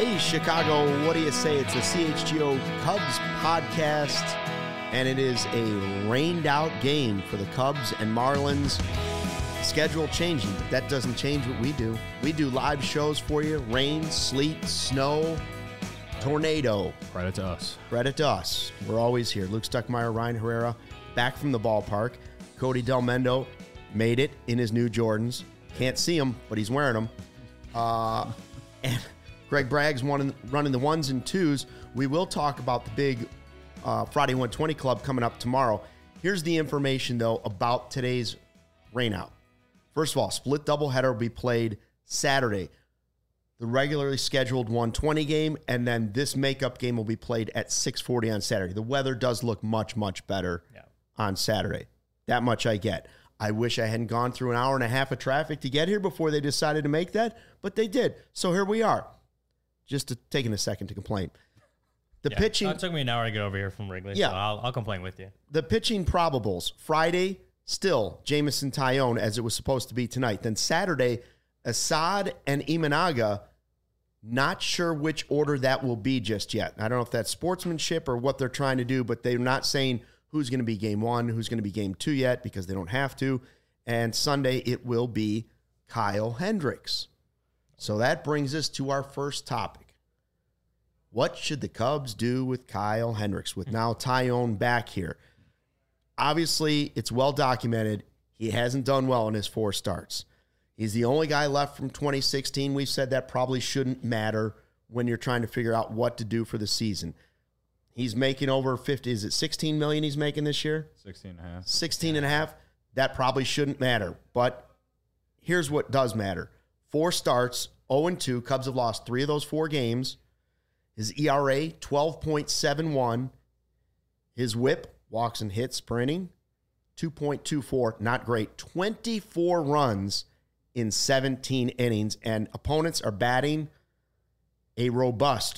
Hey, Chicago, what do you say? It's the CHGO Cubs podcast, and it is a rained-out game for the Cubs and Marlins. Schedule changing, but that doesn't change what we do. We do live shows for you, rain, sleet, snow, tornado. Credit to us. Credit to us. We're always here. Luke Stuckmeyer, Ryan Herrera, back from the ballpark. Cody Del Mendo made it in his new Jordans. Can't see him, but he's wearing them. And Greg Bragg's running the ones and twos. We will talk about the big Friday 120 Club coming up tomorrow. Here's the information, though, about today's rainout. First of all, split doubleheader will be played Saturday. The regularly scheduled 120 game, and then this makeup game will be played at 6:40 on Saturday. The weather does look much, much better on Saturday. That much I get. I wish I hadn't gone through an hour and a half of traffic to get here before they decided to make that, but they did. So here we are. Just taking a second to complain. The pitching. It took me an hour to get over here from Wrigley, so I'll complain with you. The pitching probables. Friday, still Jamison Tyone, as it was supposed to be tonight. Then Saturday, Assad and Imanaga. Not sure which order that will be just yet. I don't know if that's sportsmanship or what they're trying to do, but they're not saying who's going to be game one, who's going to be game two yet, because they don't have to. And Sunday, it will be Kyle Hendricks. So that brings us to our first topic. What should the Cubs do with Kyle Hendricks, with now Tyone back here? Obviously, it's well documented. He hasn't done well in his 4 starts. He's the only guy left from 2016. We've said that probably shouldn't matter when you're trying to figure out what to do for the season. He's making over 50. Is it $16 million he's making this year? 16.5. 16.5. That probably shouldn't matter. But here's what does matter. 4 starts, 0-2. Cubs have lost 3 of those 4 games. His ERA, 12.71. His whip, walks and hits per inning, 2.24. Not great. 24 runs in 17 innings. And opponents are batting a robust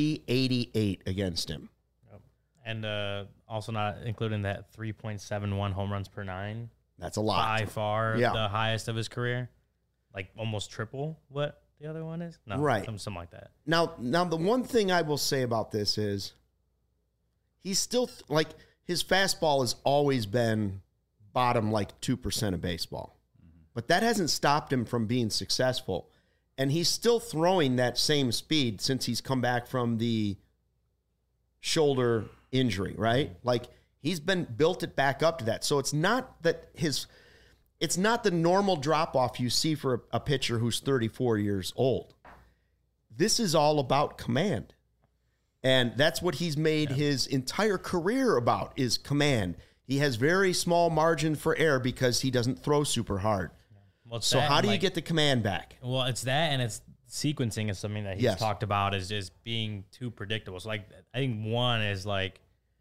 .388 against him. And also not including that 3.71 home runs per 9. That's a lot. By far the highest of his career. Like almost triple what the other one is? No, right. Something like that. Now, the one thing I will say about this is he's still, his fastball has always been bottom 2% of baseball. Mm-hmm. But that hasn't stopped him from being successful. And he's still throwing that same speed since he's come back from the shoulder injury, right? He's built it back up to that. So it's not that it's not the normal drop-off you see for a pitcher who's 34 years old. This is all about command. And that's what he's made his entire career about, is command. He has very small margin for error because he doesn't throw super hard. Well, so how do you get the command back? Well, it's that, and it's sequencing is something that he's talked about is being too predictable. So I think one is I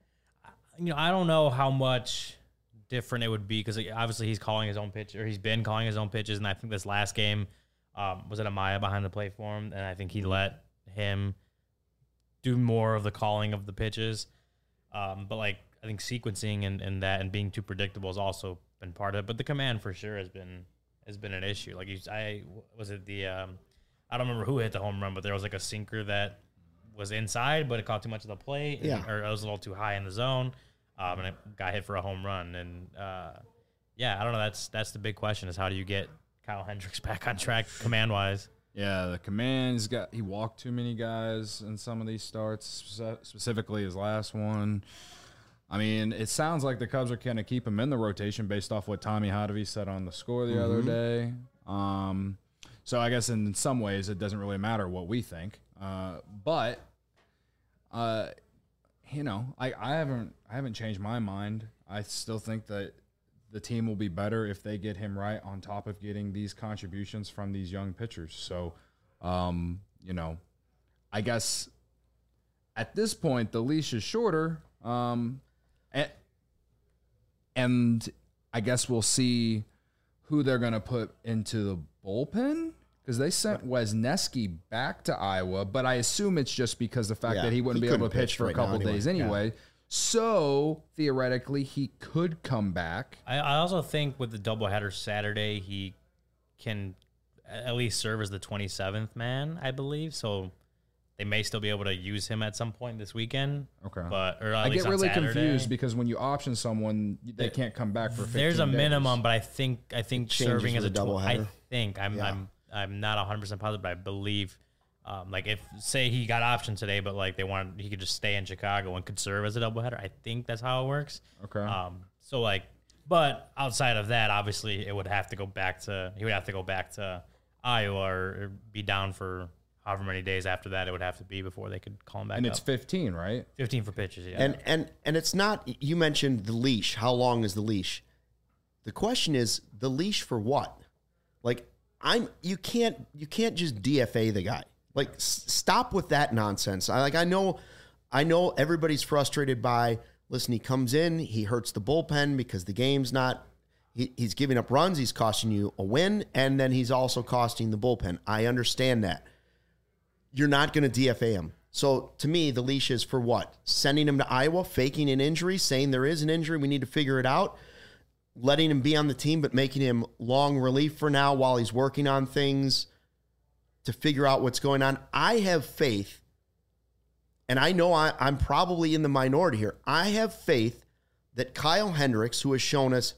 don't know how much different it would be, because obviously he's calling his own pitch, or he's been calling his own pitches, and I think this last game was it Amaya behind the plate for him, and I think he let him do more of the calling of the pitches. But I think sequencing and that and being too predictable has also been part of it. But the command for sure has been an issue. I don't remember who hit the home run, but there was a sinker that was inside, but it caught too much of the plate, or it was a little too high in the zone. And it got hit for a home run. And, I don't know. That's the big question, is how do you get Kyle Hendricks back on track command-wise? Yeah, the command, he walked too many guys in some of these starts, specifically his last one. I mean, it sounds like the Cubs are going to keep him in the rotation based off what Tommy Hotovy said on the score the other day. So I guess in some ways it doesn't really matter what we think. But I haven't changed my mind. I still think that the team will be better if they get him right, on top of getting these contributions from these young pitchers. So, I guess at this point the leash is shorter. And I guess we'll see who they're going to put into the bullpen, because they sent Wesneski back to Iowa, but I assume it's just because the fact that he wouldn't be able to pitch for a couple days anyway. Yeah. So theoretically, he could come back. I also think with the doubleheader Saturday, he can at least serve as the 27th man, I believe. So they may still be able to use him at some point this weekend. Okay. But or I get really confused because when you option someone, they can't come back for 15 There's a days. minimum, but I think serving as a doubleheader. I'm not 100% positive, but I believe like if say he got optioned today, but like he could just stay in Chicago and could serve as a doubleheader. I think that's how it works. Okay. So like, but outside of that, obviously he would have to go back to Iowa or be down for however many days after that it would have to be before they could call him back and up. it's 15, right? 15 for pitches, yeah. And it's not, you mentioned the leash. How long is the leash? The question is the leash for what? Like you can't just DFA the guy. Like stop with that nonsense. I know everybody's frustrated by, listen, he comes in, he hurts the bullpen because the game's not, he's giving up runs, he's costing you a win, and then he's also costing the bullpen. I understand that. You're not going to DFA him. So to me, the leash is for what? Sending him to Iowa, faking an injury, saying there is an injury, we need to figure it out, letting him be on the team, but making him long relief for now while he's working on things to figure out what's going on. I have faith, and I know I'm probably in the minority here. I have faith that Kyle Hendricks, who has shown us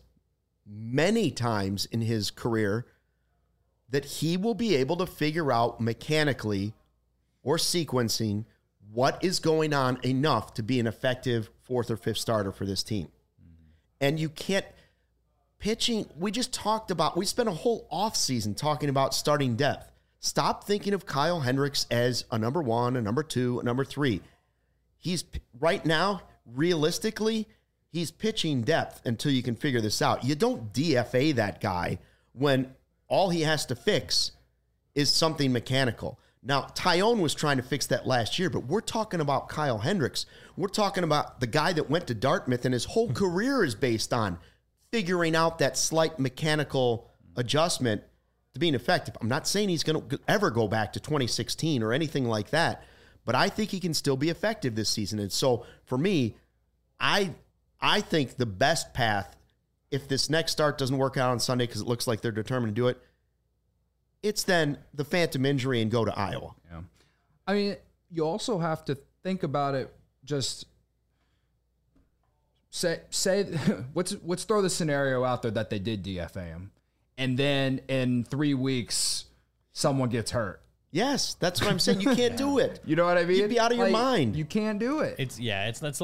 many times in his career that he will be able to figure out mechanically or sequencing what is going on enough to be an effective fourth or fifth starter for this team. And you can't pitching. We just talked about, we spent a whole offseason talking about starting depth. Stop thinking of Kyle Hendricks as a number one, a number two, a number three. He's right now, realistically, he's pitching depth until you can figure this out. You don't DFA that guy when all he has to fix is something mechanical. Now, Taillon was trying to fix that last year, but we're talking about Kyle Hendricks. We're talking about the guy that went to Dartmouth and his whole career is based on figuring out that slight mechanical adjustment to being effective. I'm not saying he's going to ever go back to 2016 or anything like that, but I think he can still be effective this season. And so for me, I think the best path, if this next start doesn't work out on Sunday because it looks like they're determined to do it, it's then the phantom injury and go to Iowa. Yeah. I mean, you also have to think about it. Just say let's throw the scenario out there that they did DFA him, and then in 3 weeks someone gets hurt. Yes, that's what I'm saying. You can't do it. You know what I mean? You'd be out of your mind. You can't do it. It's not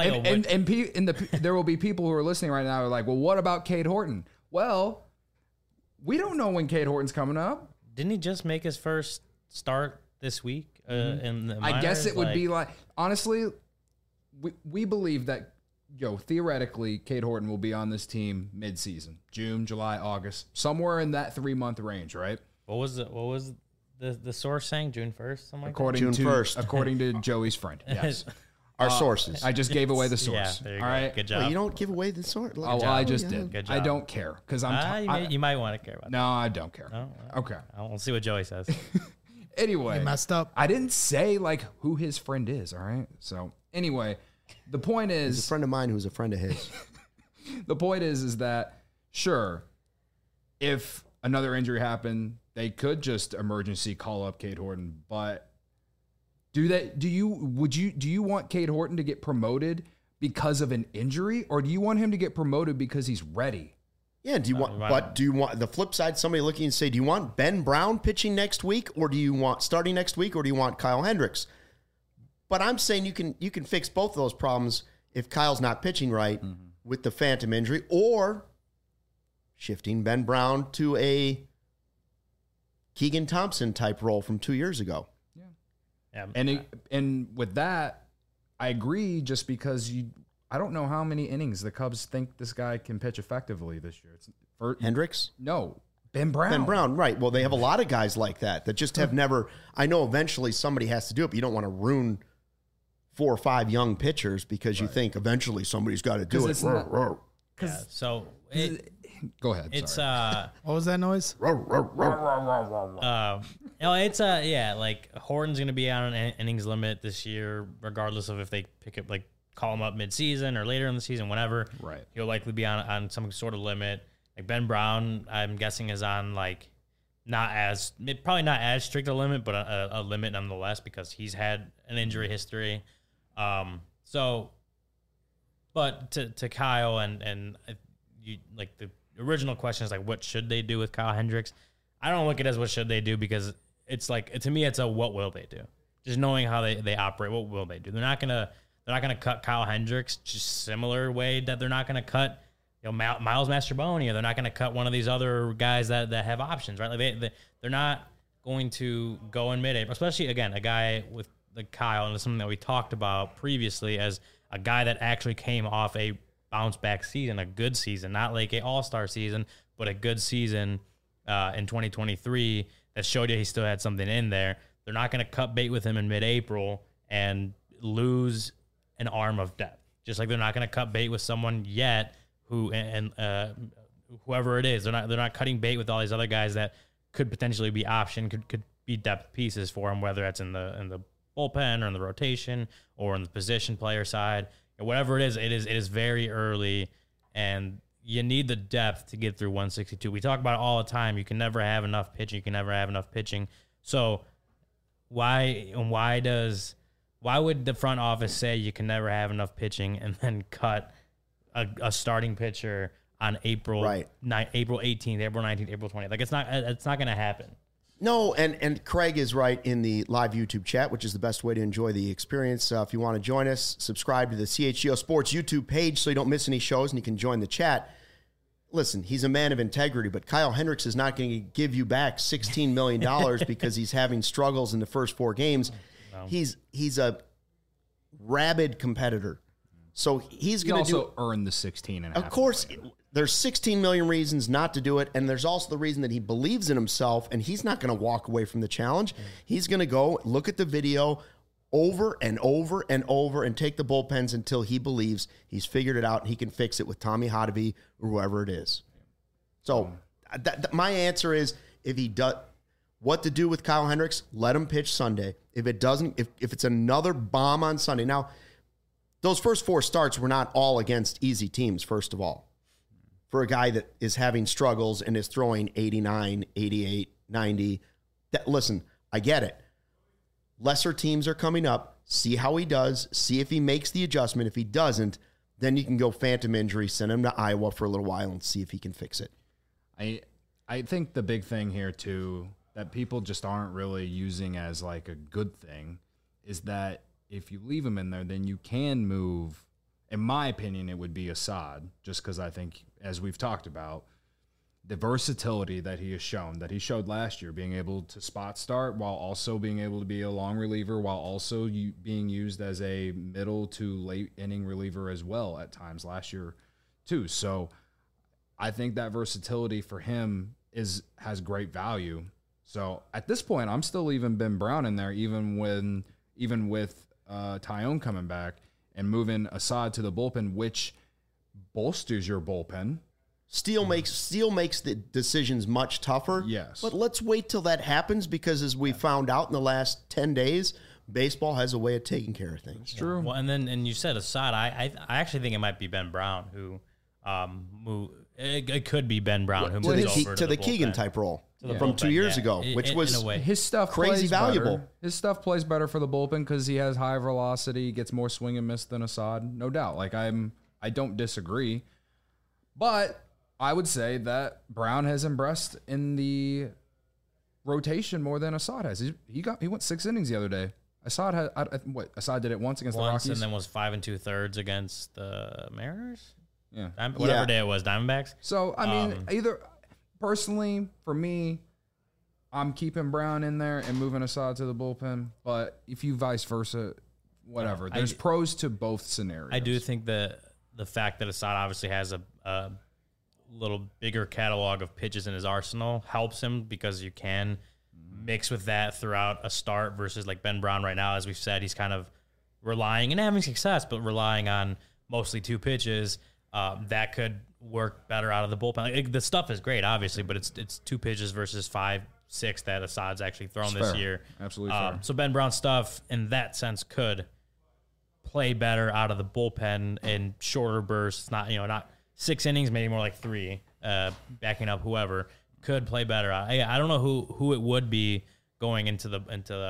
like there will be people who are listening right now who are like, well, what about Cade Horton? Well, we don't know when Cade Horton's coming up. Didn't he just make his first start this week? In the minors? I guess it would be like, honestly, we believe that, theoretically, Cade Horton will be on this team mid-season, June, July, August, somewhere in that 3-month range, right? What was the source saying? June 1st, something like June 1st. According to Joey's friend, yes. Our sources. I just gave away the source. Yeah, there you all go. right. Good job. Well, you don't give away the source. I just did. Good job. I don't care because you might want to care about that. No, I don't care. No? Okay. We'll see what Joey says. Anyway, You messed up. I didn't say like who his friend is. All right. So anyway, the point He's a is, friend of mine who's a friend of his. the point is that sure, if another injury happened, they could just emergency call up Cade Horton. But do you want Cade Horton to get promoted because of an injury, or do you want him to get promoted because he's ready? Yeah, do you want the flip side, somebody looking and say, do you want Ben Brown pitching next week, or do you want starting next week, or do you want Kyle Hendricks? But I'm saying you can fix both of those problems if Kyle's not pitching right with the phantom injury, or shifting Ben Brown to a Keegan Thompson type role from 2 years ago. Yeah. And with that, I agree. Just because I don't know how many innings the Cubs think this guy can pitch effectively this year. Hendricks? No, Ben Brown. Ben Brown, right. Well, they have a lot of guys like that just have never. I know eventually somebody has to do it, but you don't want to ruin 4 or 5 young pitchers because you think eventually somebody's got to do it. So go ahead. It's What was that noise? like Horton's gonna be on an innings limit this year, regardless of if they call him up mid-season or later in the season, whenever. Right. He'll likely be on some sort of limit. Like Ben Brown, I'm guessing is on like probably not as strict a limit, but a limit nonetheless because he's had an injury history. But to Kyle and you like the original question is like, what should they do with Kyle Hendricks? I don't look at it as what should they do because it's like to me it's a what will they do? Just knowing how they operate, what will they do? They're not gonna cut Kyle Hendricks just similar way that they're not gonna cut Miles Mastrobuoni, or they're not gonna cut one of these other guys that have options, right? Like they're not going to go in mid-April, especially again a guy with like Kyle, and it's something that we talked about previously as a guy that actually came off a bounce back season, a good season, not like a all-star season, but a good season in 2023 that showed you he still had something in there. They're not going to cut bait with him in mid-April and lose an arm of depth. Just like they're not going to cut bait with someone yet who whoever it is, they're not cutting bait with all these other guys that could potentially be option, could be depth pieces for him, whether it's in the bullpen or in the rotation or in the position player side, or whatever it is very early, and you need the depth to get through 162. We talk about it all the time. You can never have enough pitching. You can never have enough pitching. So why would the front office say you can never have enough pitching and then cut a starting pitcher on April 18th, April 19th, April 20th? Like it's not going to happen. No, and Craig is right in the live YouTube chat, which is the best way to enjoy the experience. If you want to join us, subscribe to the CHGO Sports YouTube page so you don't miss any shows and you can join the chat. Listen, he's a man of integrity, but Kyle Hendricks is not going to give you back $16 million because he's having struggles in the first 4 games. No. He's a rabid competitor. So he's going to also earn the 16 and a half. Of course, there's 16 million reasons not to do it, and there's also the reason that he believes in himself, and he's not going to walk away from the challenge. He's going to go look at the video over and over and over and take the bullpens until he believes he's figured it out and he can fix it with Tommy Hotovy or whoever it is. So my answer is, if he does what to do with Kyle Hendricks, let him pitch Sunday. If it doesn't, if it's another bomb on Sunday. Now, those first 4 starts were not all against easy teams, first of all. For a guy that is having struggles and is throwing 89, 88, 90. Listen, I get it. Lesser teams are coming up. See how he does. See if he makes the adjustment. If he doesn't, then you can go phantom injury, send him to Iowa for a little while and see if he can fix it. I think the big thing here, too, that people just aren't really using as like a good thing is that if you leave him in there, then you can move. In my opinion, it would be Assad, just because I think, as we've talked about, the versatility that he has shown, that he showed last year, being able to spot start while also being able to be a long reliever, while also being used as a middle to late inning reliever as well at times last year too. So I think that versatility for him has great value. So at this point, I'm still leaving Ben Brown in there, even with Taillon coming back, and moving Assad to the bullpen, which bolsters your bullpen. Steele makes the decisions much tougher. Yes. But let's wait till that happens, because as we found out in the last 10 days, baseball has a way of taking care of things. It's true. Well, and you said Assad. I actually think it might be Ben Brown who it could be Ben Brown who moves over to the Keegan type role from 2 years ago, which was his stuff crazy valuable. Better. His stuff plays better for the bullpen because he has high velocity, gets more swing and miss than Assad, no doubt. Like I don't disagree, but I would say that Brown has impressed in the rotation more than Assad has. He went 6 innings the other day. Assad did it once against the Rockies, and then was 5 2/3 against the Mariners. Yeah, whatever day it was, Diamondbacks. So I mean, either personally for me, I'm keeping Brown in there and moving Assad to the bullpen. But if you vice versa, whatever. There's pros to both scenarios. I do think that the fact that Assad obviously has a little bigger catalog of pitches in his arsenal helps him, because you can mix with that throughout a start versus like Ben Brown right now. As we've said, he's kind of relying and having success, but relying on mostly 2 pitches. That could work better out of the bullpen. Like, the stuff is great, obviously, but it's 2 pitches versus 5, 6 that Assad's actually thrown this year. Absolutely fair. So Ben Brown's stuff in that sense could play better out of the bullpen in shorter bursts. Not 6 innings, maybe more like 3, backing up whoever. could play better. I don't know who it would be going into the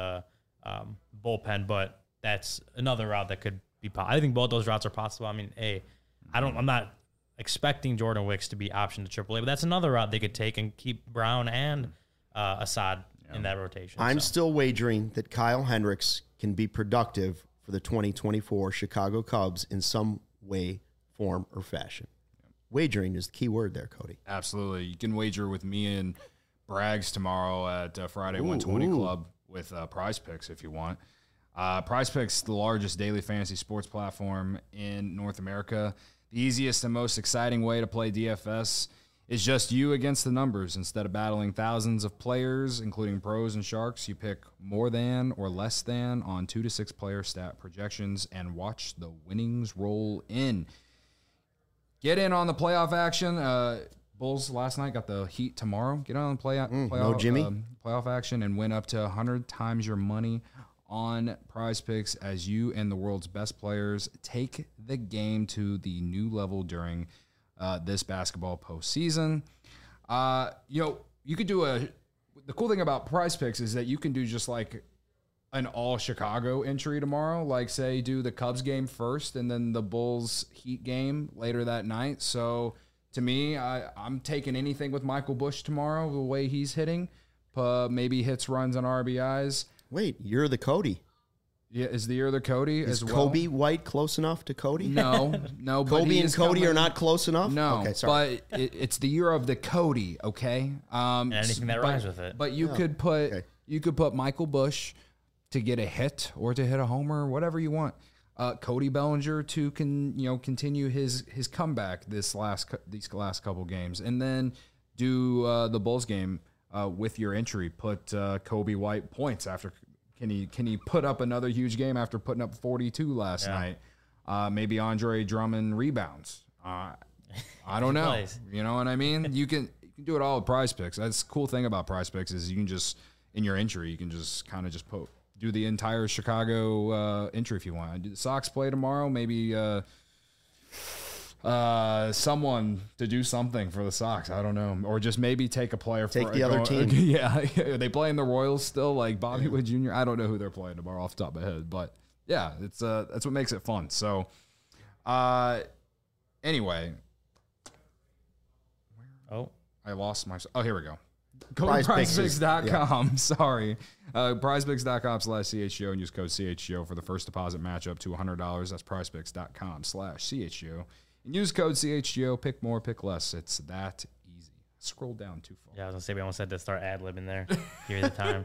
bullpen, but that's another route that could be. I think both those routes are possible. I mean, I'm not expecting Jordan Wicks to be optioned to AAA, but that's another route they could take and keep Brown and Assad in that rotation. I'm still wagering that Kyle Hendricks can be productive for the 2024 Chicago Cubs in some way, form, or fashion. Wagering is the key word there, Cody. Absolutely. You can wager with me and Braggs tomorrow at Friday 120 Club with Prize Picks if you want. Prize Picks, the largest daily fantasy sports platform in North America. The easiest and most exciting way to play DFS is just you against the numbers. Instead of battling thousands of players, including pros and sharks, you pick more than or less than on 2 to 6 player stat projections and watch the winnings roll in. Get in on the playoff action. Bulls last night got the Heat tomorrow. Get on the playoff action and win up to 100 times your money on Prize Picks as you and the world's best players take the game to the new level during this basketball postseason. You could do the cool thing about Prize Picks is that you can do just like an all Chicago entry tomorrow, like say do the Cubs game first and then the Bulls Heat game later that night. So to me, I'm taking anything with Michael Busch tomorrow, the way he's hitting, maybe hits, runs, and RBIs. Wait, you're the Cody. Yeah, is the year the Cody is as well? Kobe White close enough to Cody? No. Kobe and Cody are not close enough? No, okay, sorry. But it's the year of the Cody, okay? Anything that rhymes with it. But you could put Michael Busch to get a hit or to hit a homer, whatever you want. Cody Bellinger to continue his comeback these last couple games, and then do the Bulls game with your entry. Put Kobe White points after. Can he put up another huge game after putting up 42 last night? Maybe Andre Drummond rebounds. I don't know. Plays. You know what I mean? You can do it all with Prize Picks. That's the cool thing about Prize Picks is you can just in your entry you can just kind of just do the entire Chicago entry if you want. Do the Sox play tomorrow? Maybe someone to do something for the Sox. I don't know. Or just maybe take a player take the other team. Yeah. Are they playing the Royals still? Like Bobby Witt Jr.? I don't know who they're playing tomorrow off the top of my head. But yeah, it's that's what makes it fun. So anyway. I lost my here we go. Go to prizepicks.com. Sorry. Prizepicks.com/CHGO and use code CHGO for the first deposit matchup to $100. That's prizepicks.com/CHGO. And use code CHGO. Pick more, pick less. It's that easy. Scroll down too far. Yeah, I was going to say, we almost had to start ad-libbing there. Give the time.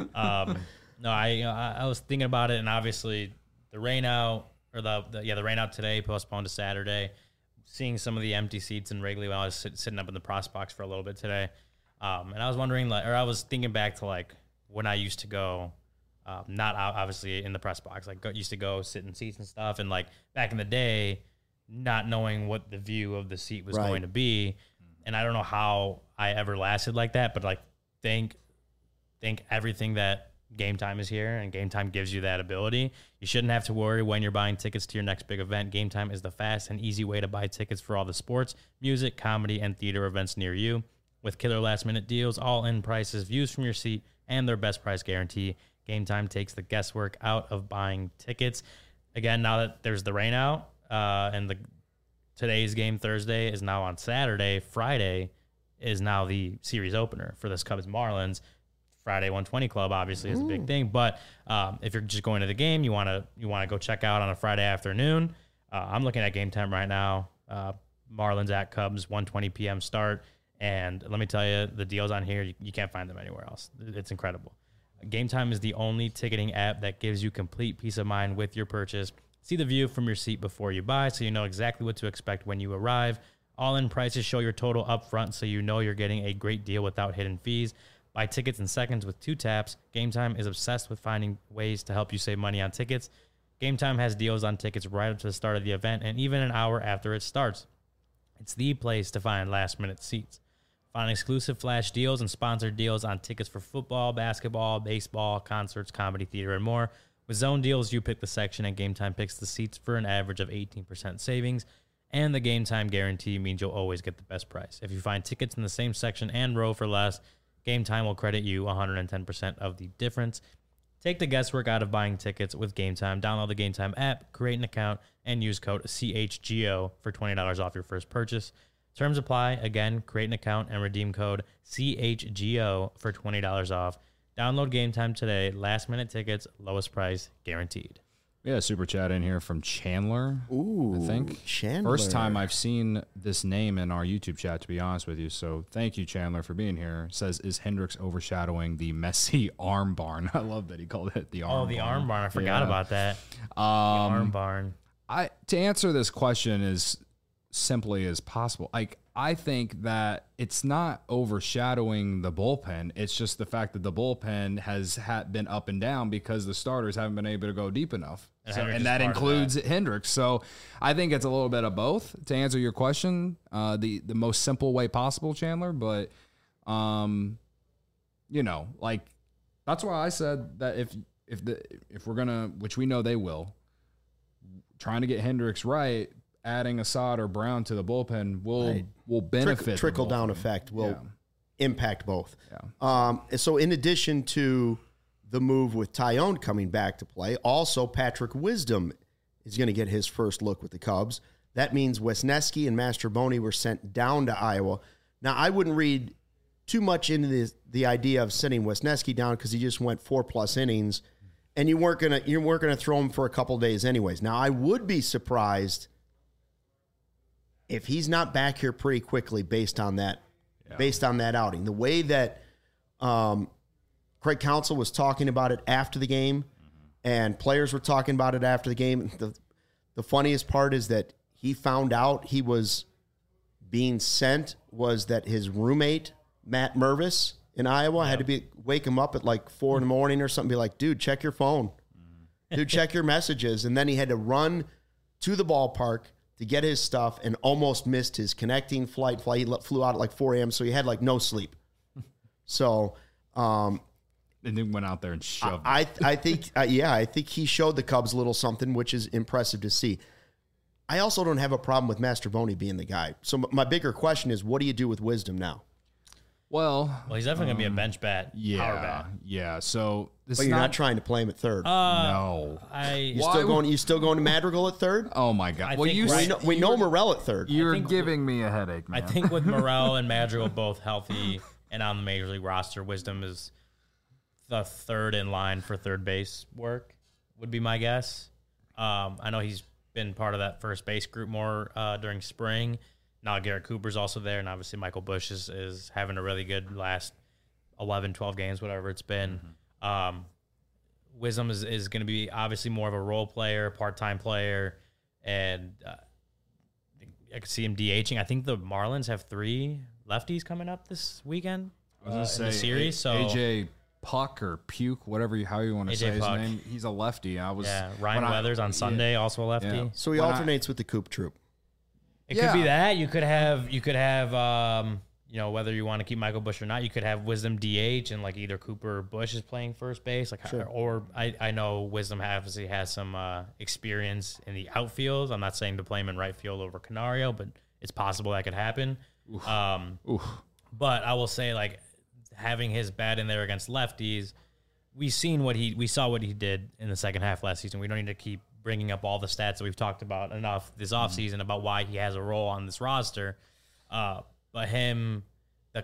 No, I was thinking about it, and obviously the rain out, or the rain out today, postponed to Saturday. Seeing some of the empty seats in Wrigley when I was sitting up in the press box for a little bit today. And I was wondering, I was thinking back to when I used to go, not obviously in the press box, used to go sit in seats and stuff. And back in the day, not knowing what the view of the seat was going to be. And I don't know how I ever lasted like that, but thank everything that Game Time is here, and Game Time gives you that ability. You shouldn't have to worry when you're buying tickets to your next big event. Game Time is the fast and easy way to buy tickets for all the sports, music, comedy, and theater events near you. With killer last-minute deals, all-in prices, views from your seat, and their best price guarantee, Game Time takes the guesswork out of buying tickets. Again, now that there's the rain out, and today's game, Thursday, is now on Saturday. Friday is now the series opener for this Cubs Marlins. Friday 120 Club obviously is a big thing, but if you're just going to the game, you want to go check out on a Friday afternoon. I'm looking at Game Time right now. Marlins at Cubs, 1:20 p.m. start. And let me tell you, the deals on here, you can't find them anywhere else. It's incredible. Game Time is the only ticketing app that gives you complete peace of mind with your purchase. See the view from your seat before you buy, so you know exactly what to expect when you arrive. All-in prices show your total up front, so you know you're getting a great deal without hidden fees. Buy tickets in seconds with 2 taps. Game Time is obsessed with finding ways to help you save money on tickets. Game Time has deals on tickets right up to the start of the event and even an hour after it starts. It's the place to find last-minute seats. Find exclusive flash deals and sponsored deals on tickets for football, basketball, baseball, concerts, comedy, theater, and more. With Zone Deals, you pick the section and Game Time picks the seats for an average of 18% savings. And the game time guarantee means you'll always get the best price. If you find tickets in the same section and row for less, Game Time will credit you 110% of the difference. Take the guesswork out of buying tickets with Game Time. Download the Game Time app, create an account, and use code CHGO for $20 off your first purchase. Terms apply. Again, create an account and redeem code CHGO for $20 off. Download Game Time today. Last minute tickets, lowest price guaranteed. We had a super chat in here from Chandler. Ooh, I think. Chandler. First time I've seen this name in our YouTube chat, to be honest with you. So thank you, Chandler, for being here. Says, is Hendricks overshadowing the Messi arm barn? I love that he called it the arm barn. Oh, the arm barn. I forgot about that. The arm barn. To answer this question as simply as possible, I think that it's not overshadowing the bullpen. It's just the fact that the bullpen has been up and down because the starters haven't been able to go deep enough. And that includes Hendricks. So I think it's a little bit of both to answer your question, the most simple way possible, Chandler. But, that's why I said that if we're going to, which we know they will, trying to get Hendricks right, adding Assad or Brown to the bullpen will benefit. Trickle down effect will impact both. Yeah. So in addition to the move with Taillon coming back to play, also Patrick Wisdom is going to get his first look with the Cubs. That means Wesneski and Mastrobuoni were sent down to Iowa. Now, I wouldn't read too much into the idea of sending Wesneski down because he just went 4+ innings, and you weren't gonna throw him for a couple days anyways. Now, I would be surprised if he's not back here pretty quickly based on that outing. The way that Craig Counsell was talking about it after the game, and players were talking about it after the game. The funniest part is that he found out he was being sent was that his roommate, Matt Mervis in Iowa, had to wake him up at like 4 a.m. or something, be like, dude, check your phone. Dude, check your messages. And then he had to run to the ballpark to get his stuff and almost missed his connecting flight. He flew out at like 4 a.m., so he had like no sleep. So, and then went out there and shoved. I think he showed the Cubs a little something, which is impressive to see. I also don't have a problem with Mastrobuoni being the guy. So my bigger question is, what do you do with Wisdom now? Well, he's definitely going to be a bench bat, power bat. Yeah, so but you're not trying to play him at third. No. You still going to Madrigal at third? Oh, my God. We know Morel at third. You're giving me a headache, man. I think with Morel and Madrigal both healthy and on the Major League roster, Wisdom is the third in line for third base work, would be my guess. I know he's been part of that first base group more during spring. Now Garrett Cooper's also there, and obviously Michael Busch is having a really good last 11, 12 games, whatever it's been. Wisdom is going to be obviously more of a role player, part-time player, and I could see him DHing. I think the Marlins have 3 lefties coming up this weekend in the series. So AJ Puck or Puke, how you want to say his name. He's a lefty. Ryan Weathers on Sunday, also a lefty. Yeah. So he alternates with the Coop Troop. It could be that. You could have whether you want to keep Michael Busch or not, you could have Wisdom DH and like either Cooper or Busch is playing first base. Or I know Wisdom obviously has some experience in the outfield. I'm not saying to play him in right field over Canario, but it's possible that could happen. But I will say, like, having his bat in there against lefties, we saw what he did in the second half last season. We don't need to keep bringing up all the stats that we've talked about enough this offseason about why he has a role on this roster. But him, I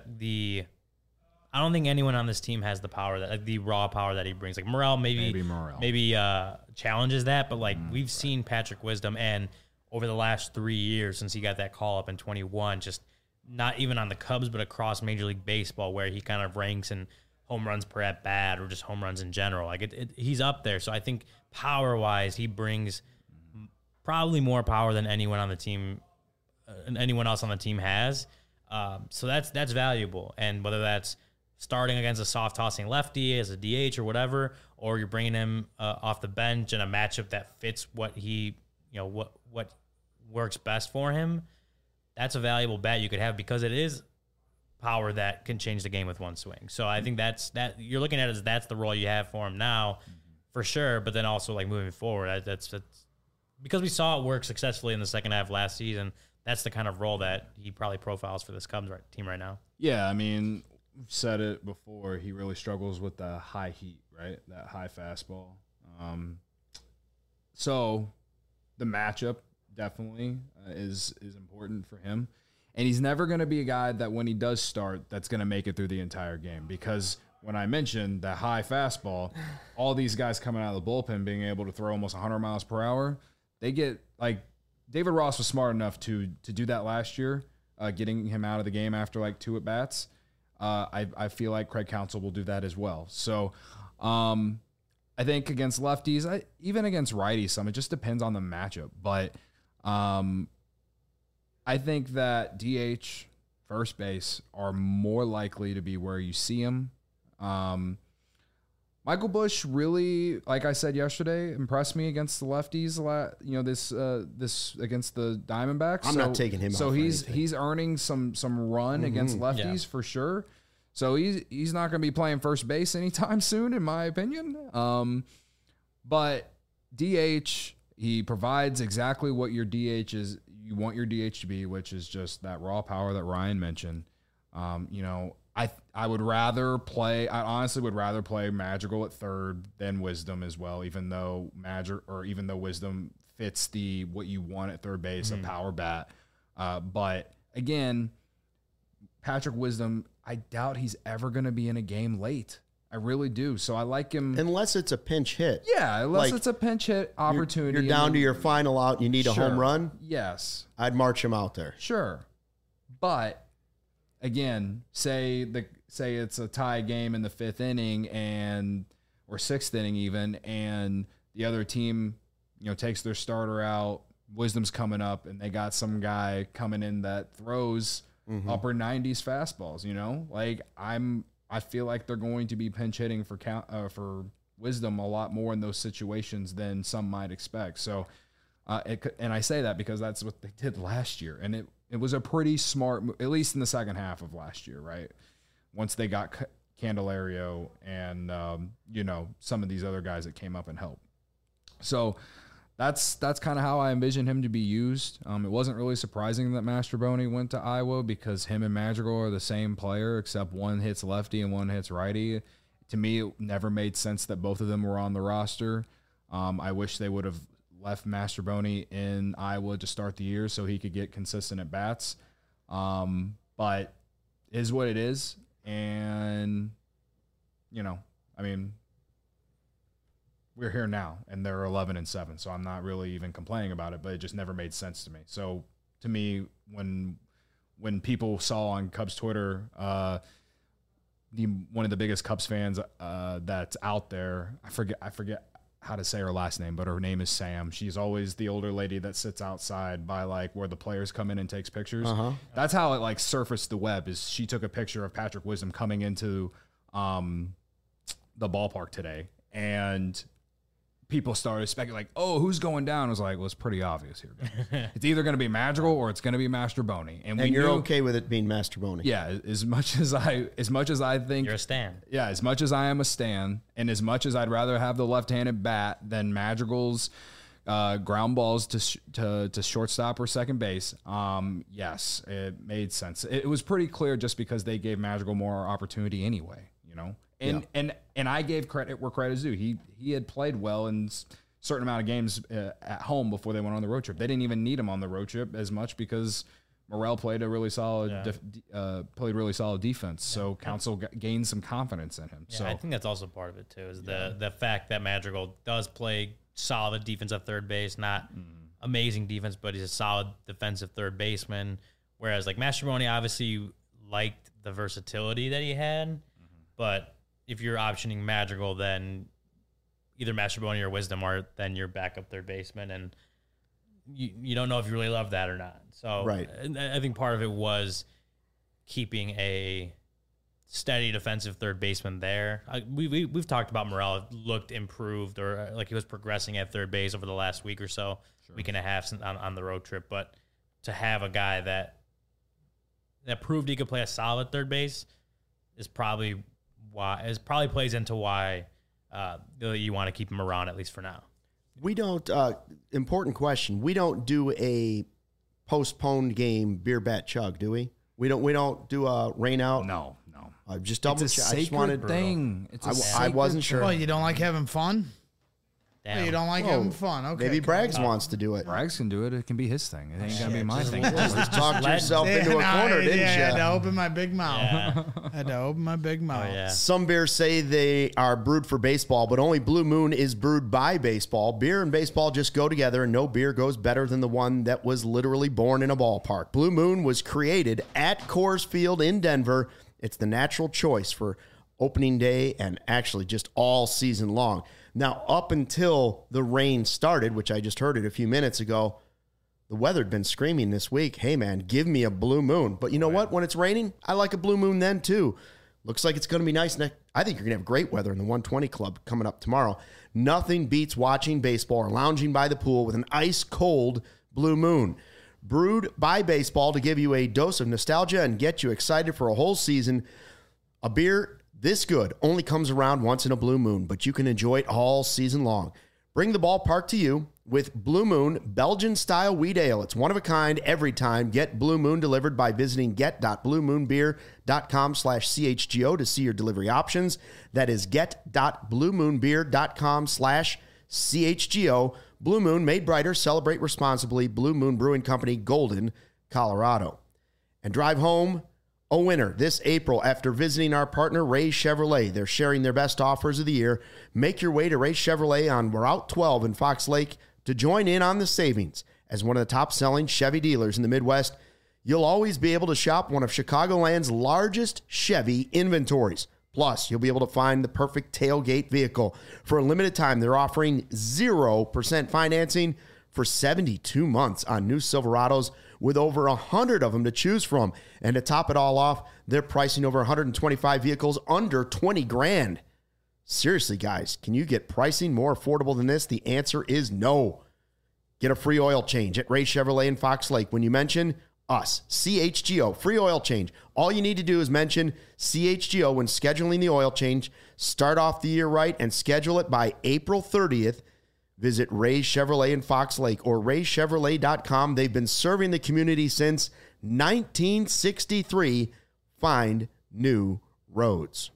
don't think anyone on this team has the power the raw power that he brings. Like Morel, maybe challenges that, but like we've seen Patrick Wisdom, and over the last 3 years since he got that call up in 21, just not even on the Cubs, but across Major League Baseball, where he kind of ranks in home runs per at bat or just home runs in general. Like he's up there. So I think power wise, he brings probably more power than anyone on the team, anyone else on the team has. So that's valuable. And whether that's starting against a soft tossing lefty as a DH or whatever, or you're bringing him off the bench in a matchup that fits what he, what works best for him, that's a valuable bet you could have, because it is power that can change the game with one swing. So I think that you're looking at it as that's the role you have for him now, for sure. But then also like moving forward, that's because we saw it work successfully in the second half last season, that's the kind of role that he probably profiles for this Cubs team right now. Yeah, I mean, we've said it before. He really struggles with the high heat, right? That high fastball. So the matchup definitely is important for him. And he's never going to be a guy that when he does start, that's going to make it through the entire game. Because when I mentioned that high fastball, all these guys coming out of the bullpen being able to throw almost 100 miles per hour, they get like David Ross was smart enough to do that last year, getting him out of the game after like 2 at-bats. I feel like Craig Counsell will do that as well. So I think against lefties, even against righties, it just depends on the matchup. But I think that DH, first base, are more likely to be where you see him. Michael Busch really, like I said yesterday, impressed me against the lefties. This against the Diamondbacks. I'm not taking him. So he's earning some run against lefties for sure. So he's not going to be playing first base anytime soon, in my opinion. But DH, he provides exactly what your DH is. You want your DH to be, which is just that raw power that Ryan mentioned. I would rather play. I honestly would rather play Madrigal at third than Wisdom as well, even though Wisdom fits what you want at third base, a power bat. But again, Patrick Wisdom, I doubt he's ever going to be in a game late. I really do. So I like him. Unless it's a pinch hit. Yeah, unless it's a pinch hit opportunity. You're down to your final out and you need a home run. Yes. I'd march him out there. Sure. But again, say it's a tie game in the 5th inning or 6th inning even, and the other team, takes their starter out, Wisdom's coming up, and they got some guy coming in that throws upper 90s fastballs, I feel like they're going to be pinch hitting for Wisdom a lot more in those situations than some might expect. So, and I say that because that's what they did last year, and it was a pretty smart move, at least in the second half of last year, right? Once they got Candelario and some of these other guys that came up and helped. So that's kind of how I envision him to be used. It wasn't really surprising that Mastrobuoni went to Iowa because him and Madrigal are the same player, except one hits lefty and one hits righty. To me, it never made sense that both of them were on the roster. I wish they would have left Mastrobuoni in Iowa to start the year so he could get consistent at bats. But it is what it is. And, we're here now, and they're 11-7, so I'm not really even complaining about it, but it just never made sense to me. So to me, when people saw on Cubs Twitter, one of the biggest Cubs fans that's out there, I forget how to say her last name, but her name is Sam. She's always the older lady that sits outside by where the players come in and takes pictures. That's how it surfaced the web. Is she took a picture of Patrick Wisdom coming into the ballpark today, and people started speculating, oh, who's going down? I was like, well, it's pretty obvious here, guys. It's either going to be Madrigal or it's going to be Mastrobuoni. And you're okay with it being Mastrobuoni. Yeah, as much as I think you're a stan. Yeah, as much as I am a stan, and as much as I'd rather have the left-handed bat than Madrigal's ground balls to shortstop or second base, yes, it made sense. It was pretty clear just because they gave Madrigal more opportunity anyway, And I gave credit where credit is due. He had played well in a certain amount of games at home before they went on the road trip. They didn't even need him on the road trip as much because Morel played a really solid defense. So Counsell gained some confidence in him. Yeah, so I think that's also part of it too. Is the fact that Madrigal does play solid defense at third base, not amazing defense, but he's a solid defensive third baseman. Whereas Mastrobuoni obviously liked the versatility that he had, but if you're optioning Madrigal, then either Mastrobuoni or Wisdom are then your backup third baseman, and you don't know if you really love that or not. So right. I think part of it was keeping a steady defensive third baseman there. We've talked about Morel looked improved or he was progressing at third base over the last week or so, week and a half on the road trip. But to have a guy that proved he could play a solid third base is probably plays into why you want to keep him around, at least for now. We don't, important question. We don't do a postponed game beer bat chug, do we? We don't do a rain out? No. Just double It's a check. I just wanted thing. I wasn't sure. Well, you don't like having fun? Damn. Oh, you don't like having fun? Okay. Maybe Braggs wants to do it. Braggs can do it. It can be his thing. It ain't gonna be my thing. Just talked let- yourself into a corner, didn't I had you? to open my big mouth. Yeah. I had to open my big mouth. Oh, yeah. Some beers say they are brewed for baseball, but only Blue Moon is brewed by baseball. Beer and baseball just go together, and no beer goes better than the one that was literally born in a ballpark. Blue Moon was created at Coors Field in Denver. It's the natural choice for opening day and actually just all season long. Now, up until the rain started, which I just heard it a few minutes ago, the weather had been screaming this week, hey, man, give me a Blue Moon. But you know what? When it's raining, I like a Blue Moon then, too. Looks like it's going to be nice. I think you're going to have great weather in the 120 Club coming up tomorrow. Nothing beats watching baseball or lounging by the pool with an ice-cold Blue Moon. Brewed by baseball to give you a dose of nostalgia and get you excited for a whole season. A beer this good only comes around once in a blue moon, but you can enjoy it all season long. Bring the ballpark to you with Blue Moon Belgian-style wheat ale. It's one of a kind every time. Get Blue Moon delivered by visiting get.bluemoonbeer.com/CHGO to see your delivery options. That is get.bluemoonbeer.com/CHGO. Blue Moon, made brighter, celebrate responsibly. Blue Moon Brewing Company, Golden, Colorado. And drive home a winner this April after visiting our partner, Ray Chevrolet. They're sharing their best offers of the year. Make your way to Ray Chevrolet on Route 12 in Fox Lake to join in on the savings. As one of the top-selling Chevy dealers in the Midwest, you'll always be able to shop one of Chicagoland's largest Chevy inventories. Plus, you'll be able to find the perfect tailgate vehicle. For a limited time, they're offering 0% financing for 72 months on new Silverados, with over 100 of them to choose from. And to top it all off, they're pricing over 125 vehicles under 20 grand. Seriously, guys, can you get pricing more affordable than this? The answer is no. Get a free oil change at Ray Chevrolet in Fox Lake when you mention us, CHGO, free oil change. All you need to do is mention CHGO when scheduling the oil change. Start off the year right and schedule it by April 30th. Visit Ray Chevrolet in Fox Lake or raychevrolet.com. They've been serving the community since 1963. Find new roads.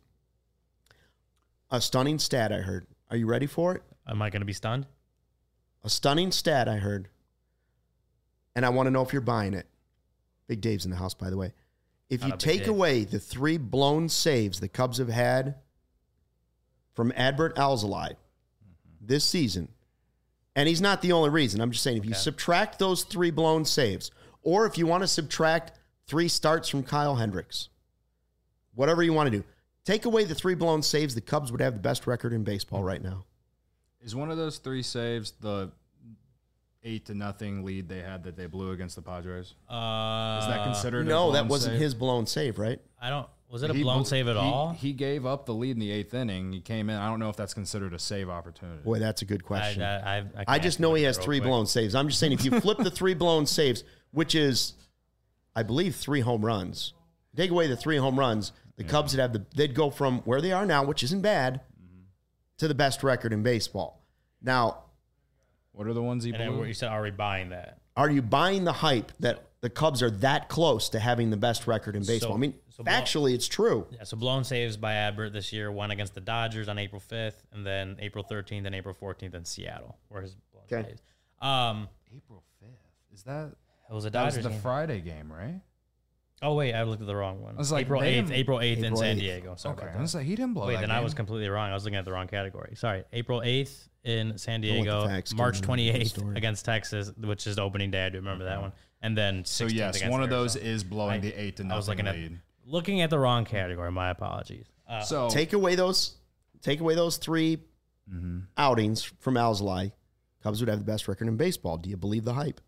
A stunning stat I heard. Are you ready for it? Am I going to be stunned? A stunning stat I heard. And I want to know if you're buying it. Big Dave's in the house, by the way. If you take away the 3 blown saves the Cubs have had from Adbert Alzolay this season, and he's not the only reason. I'm just saying, if you subtract those 3 blown saves, or if you want to subtract 3 starts from Kyle Hendricks, whatever you want to do, take away the 3 blown saves, the Cubs would have the best record in baseball right now. Is one of those 3 saves the 8-0 lead they had that they blew against the Padres? Is that considered? No, that wasn't his blown save, right? Was it a blown save at all? He gave up the lead in the 8th inning. He came in. I don't know if that's considered a save opportunity. Boy, that's a good question. I just know he has 3 blown saves. I'm just saying, if you flip the 3 blown saves, which is, I believe, 3 home runs, take away the 3 home runs, the Cubs would have they'd go from where they are now, which isn't bad, to the best record in baseball. Now, what are the ones he blew? You said, are we buying that? Are you buying the hype that the Cubs are that close to having the best record in baseball? Factually, it's true. Yeah, so blown saves by Adbert this year, one against the Dodgers on April 5th, and then April 13th and April 14th in Seattle, were his blown saves. April 5th. Is that? It was a Dodgers That was the game. Friday game, right? Oh, wait, I looked at the wrong one. I was like, April 8th in San 8th. Diego. Sorry Okay, about I that. was like, he didn't blow Wait, that then game. I was completely wrong. I was looking at the wrong category. Sorry. April 8th in San Going with the Diego, facts, March giving them the 28th story. against Texas, which is the opening day. I do remember that one. And then 16th So yes, against one of those Arizona. is blowing the 8-0 I was looking lead. looking at the wrong category. My apologies. So Take away those 3 outings from Alzolay, Cubs would have the best record in baseball. Do you believe the hype?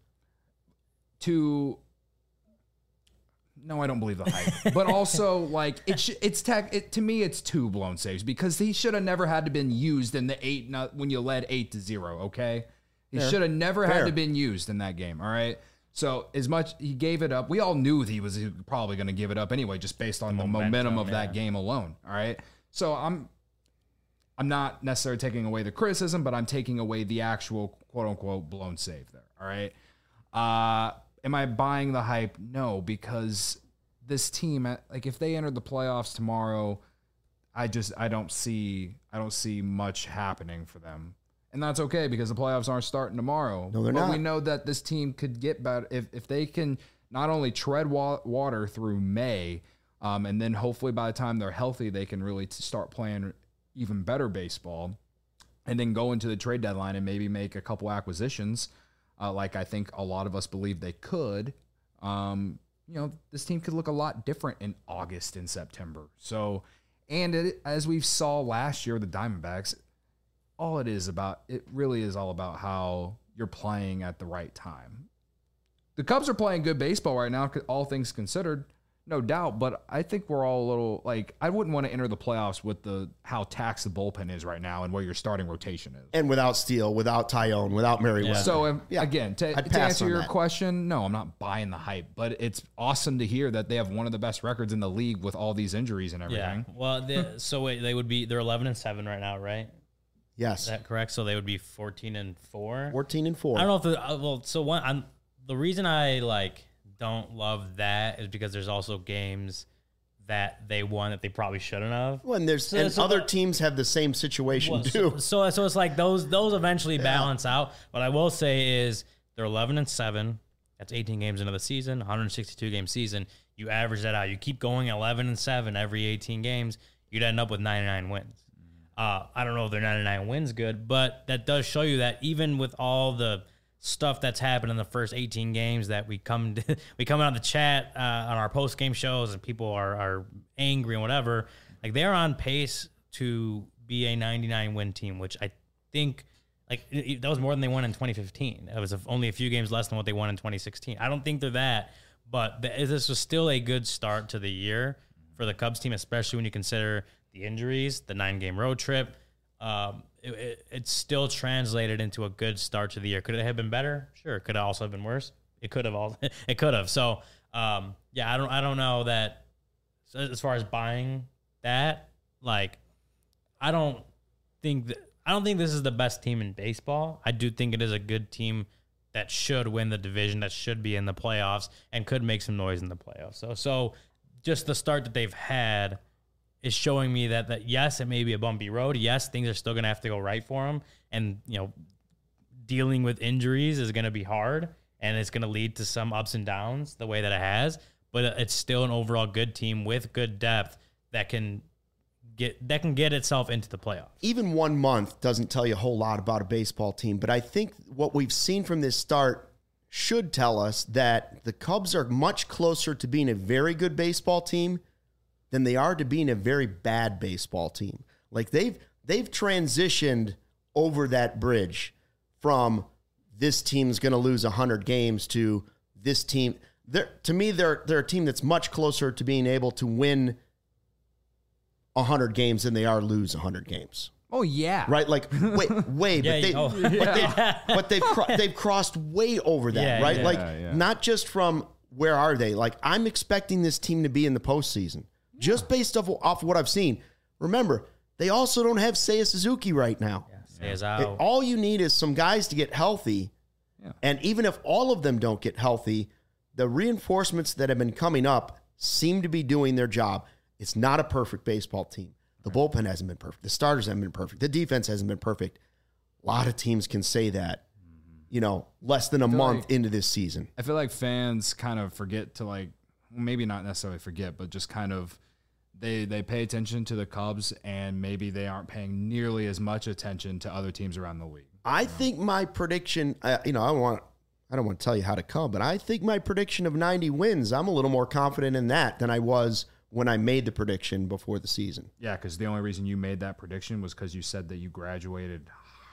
No, I don't believe the hype. But also, like, to me, it's 2 blown saves because he should have never had to been used in the when you led 8-0. Okay, he should have never had to been used in that game. All right. So as much he gave it up, we all knew that he was probably going to give it up anyway, just based on the momentum of that game alone. All right. So I'm not necessarily taking away the criticism, but I'm taking away the actual quote unquote blown save there. All right. Am I buying the hype? No, because this team, like if they entered the playoffs tomorrow, I don't see much happening for them. And that's okay because the playoffs aren't starting tomorrow. No, they're not. We know that this team could get better if they can not only tread water through May, and then hopefully by the time they're healthy, they can really start playing even better baseball, and then go into the trade deadline and maybe make a couple acquisitions, like I think a lot of us believe they could. This team could look a lot different in August and September. So, and as we saw last year with the Diamondbacks, it really is all about how you're playing at the right time. The Cubs are playing good baseball right now, all things considered, no doubt, but I think we're all a little, like, I wouldn't want to enter the playoffs with how taxed the bullpen is right now and where your starting rotation is. And without Steele, without Tyone, without Merriweather. So, again, to answer your question, no, I'm not buying the hype, but it's awesome to hear that they have one of the best records in the league with all these injuries and everything. Yeah. Well, they're 11-7 right now, right? Yes. Is that correct? So they would be 14-4. 14-4. I don't know if the reason I don't love that is because there's also games that they won that they probably shouldn't have. Well, and other teams have the same situation too. So it's like those eventually balance out. What I will say is they're 11-7. That's 18 games into the season, 162 game season. You average that out. You keep going 11-7 every 18 games. You'd end up with 99 wins. I don't know if their 99 wins good, but that does show you that even with all the stuff that's happened in the first 18 games that we come on the chat on our post game shows and people are angry and whatever, like they're on pace to be a 99 win team, which I think that was more than they won in 2015. It was only a few games less than what they won in 2016. I don't think they're that, but this was still a good start to the year for the Cubs team, especially when you consider the injuries, the 9-game road trip. It still translated into a good start to the year. Could it have been better? Sure. Could it also have been worse? It could have. It could have. So, I don't know that. So as far as buying that, I don't think this is the best team in baseball. I do think it is a good team that should win the division, that should be in the playoffs, and could make some noise in the playoffs. So just the start that they've had is showing me that yes, it may be a bumpy road. Yes, things are still going to have to go right for them. And, dealing with injuries is going to be hard, and it's going to lead to some ups and downs the way that it has. But it's still an overall good team with good depth that can get itself into the playoffs. Even 1 month doesn't tell you a whole lot about a baseball team, but I think what we've seen from this start should tell us that the Cubs are much closer to being a very good baseball team than they are to being a very bad baseball team. Like they've transitioned over that bridge from this team's going to lose 100 games to this team. To me, they're a team that's much closer to being able to win 100 games than they are lose 100 games. Oh yeah, right. Like way, but they've crossed way over that, right? Not just from where are they? Like I'm expecting this team to be in the postseason. Just based off what I've seen. Remember, they also don't have Seiya Suzuki right now. Seiya's out. All you need is some guys to get healthy. Yeah. And even if all of them don't get healthy, the reinforcements that have been coming up seem to be doing their job. It's not a perfect baseball team. The bullpen hasn't been perfect. The starters haven't been perfect. The defense hasn't been perfect. A lot of teams can say that, less than a month into this season. I feel like fans kind of forget to maybe not necessarily forget, but just kind of they pay attention to the Cubs, and maybe they aren't paying nearly as much attention to other teams around the league. I think my prediction, I don't want to tell you how to come, but I think my prediction of 90 wins, I'm a little more confident in that than I was when I made the prediction before the season. Yeah, because the only reason you made that prediction was because you said that you graduated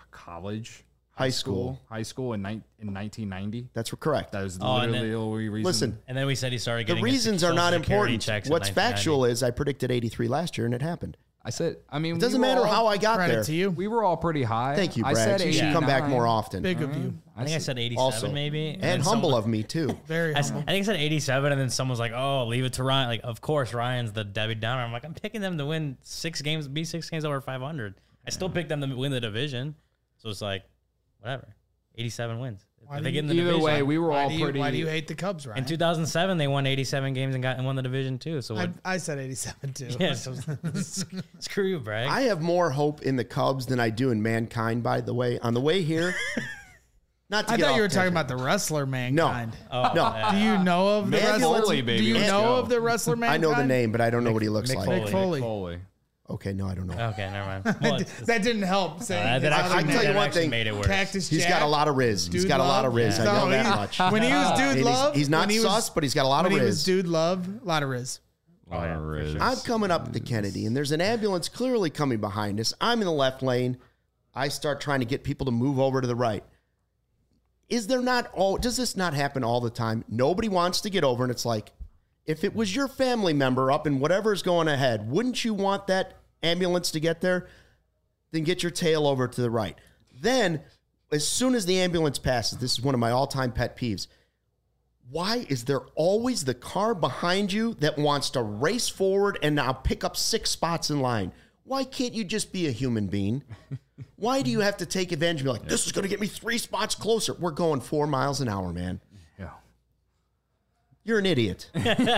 high school in 1990. That's correct. That was literally the only reason. Listen, and then we said he started getting the reasons are not important. What's factual is I predicted 83 last year and it happened. It doesn't matter how I got there. To you. We were all pretty high. Thank you, Brad. I said you should come back more often. Big of you. I think I said 87 also, maybe. And humble of me too. Very humble. I think I said 87 and then someone was like, oh, leave it to Ryan. Like, of course, Ryan's the Debbie Downer. I'm like, I'm picking them to win 6 games, be 6 games over 500. I still picked them to win the division. So it's like, whatever. 87 wins. Why They do get in you- the Either division. way, we were all Why pretty. do you hate the Cubs, Ryan? In 2007, they won 87 games and won the division too. So what? I said 87 too. Yeah, so screw you, Bragg. I have more hope in the Cubs than I do in Mankind, by the way. On the way here, not to I get thought off you were talking tangent. about the wrestler Mankind. Oh, No. yeah. Do you know of the Mick wrestler? Foley, baby, Do you let's know go. of the wrestler I Mankind? know the name, but I don't know what he looks Mick like. Foley. Mick Foley. Foley. Okay, no, I don't know. Okay, never mind. Well, That didn't help. Saying that his actually, other I tell you name. one actually thing. made it worse. Cactus He's Jack. got a lot of riz. He's Dude got a lot Love? of riz. I No, know that he's- much. When he was Dude And Love, he's not when he was- sus, but he's got a lot of when he was riz. Dude Love, a lot of riz. Oh, yeah, for sure. I'm coming up to Kennedy, and there's an ambulance clearly coming behind us. I'm in the left lane. I start trying to get people to move over to the right. Does this not happen all the time? Nobody wants to get over, and it's like, if it was your family member up in whatever's going ahead, wouldn't you want that ambulance to get there? Then get your tail over to the right. Then, as soon as the ambulance passes, this is one of my all-time pet peeves. Why is there always the car behind you that wants to race forward and now pick up 6 spots in line? Why can't you just be a human being? Why do you have to take advantage and be like, this is going to get me 3 spots closer? We're going 4 miles an hour, man. Yeah. You're an idiot.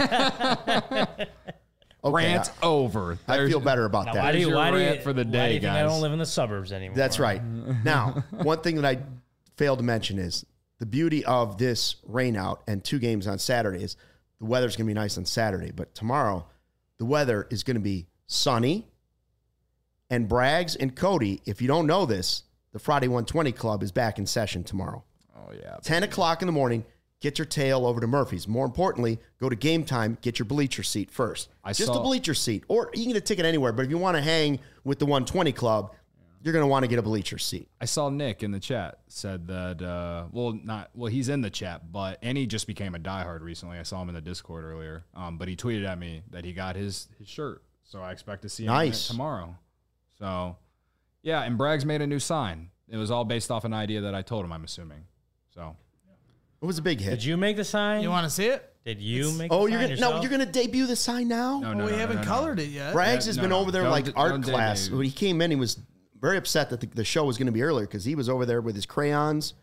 Okay, Rant over. I feel better about Now, that. why do you, your why do you, rant for the why do day, you think I guys. don't live in the suburbs anymore? That's right. Now, one thing that I failed to mention is the beauty of this rain out and 2 games on Saturday is the weather's going to be nice on Saturday, but tomorrow the weather is going to be sunny. And Braggs and Cody, if you don't know this, the Friday 120 Club is back in session tomorrow. Oh, yeah. 10 o'clock in the morning, get your tail over to Murphy's. More importantly, go to Game Time, get your bleacher seat first. Just a bleacher seat. Or you can get a ticket anywhere, but if you want to hang with the 120 Club, you're going to want to get a bleacher seat. I saw Nick in the chat said that, he's in the chat, and he just became a diehard recently. I saw him in the Discord earlier. But he tweeted at me that he got his shirt. So I expect to see him in it tomorrow. So, yeah, and Braggs made a new sign. It was all based off an idea that I told him, I'm assuming. So, It was a big hit. Did you make the sign? You want to see it? Did you make Oh, the sign yourself? you're gonna debut the sign now? no, we haven't colored it yet. Braggs has been over there Don't- like art don't class. debut. When he came in, he was very upset that the show was going to be earlier because he was over there with his crayons.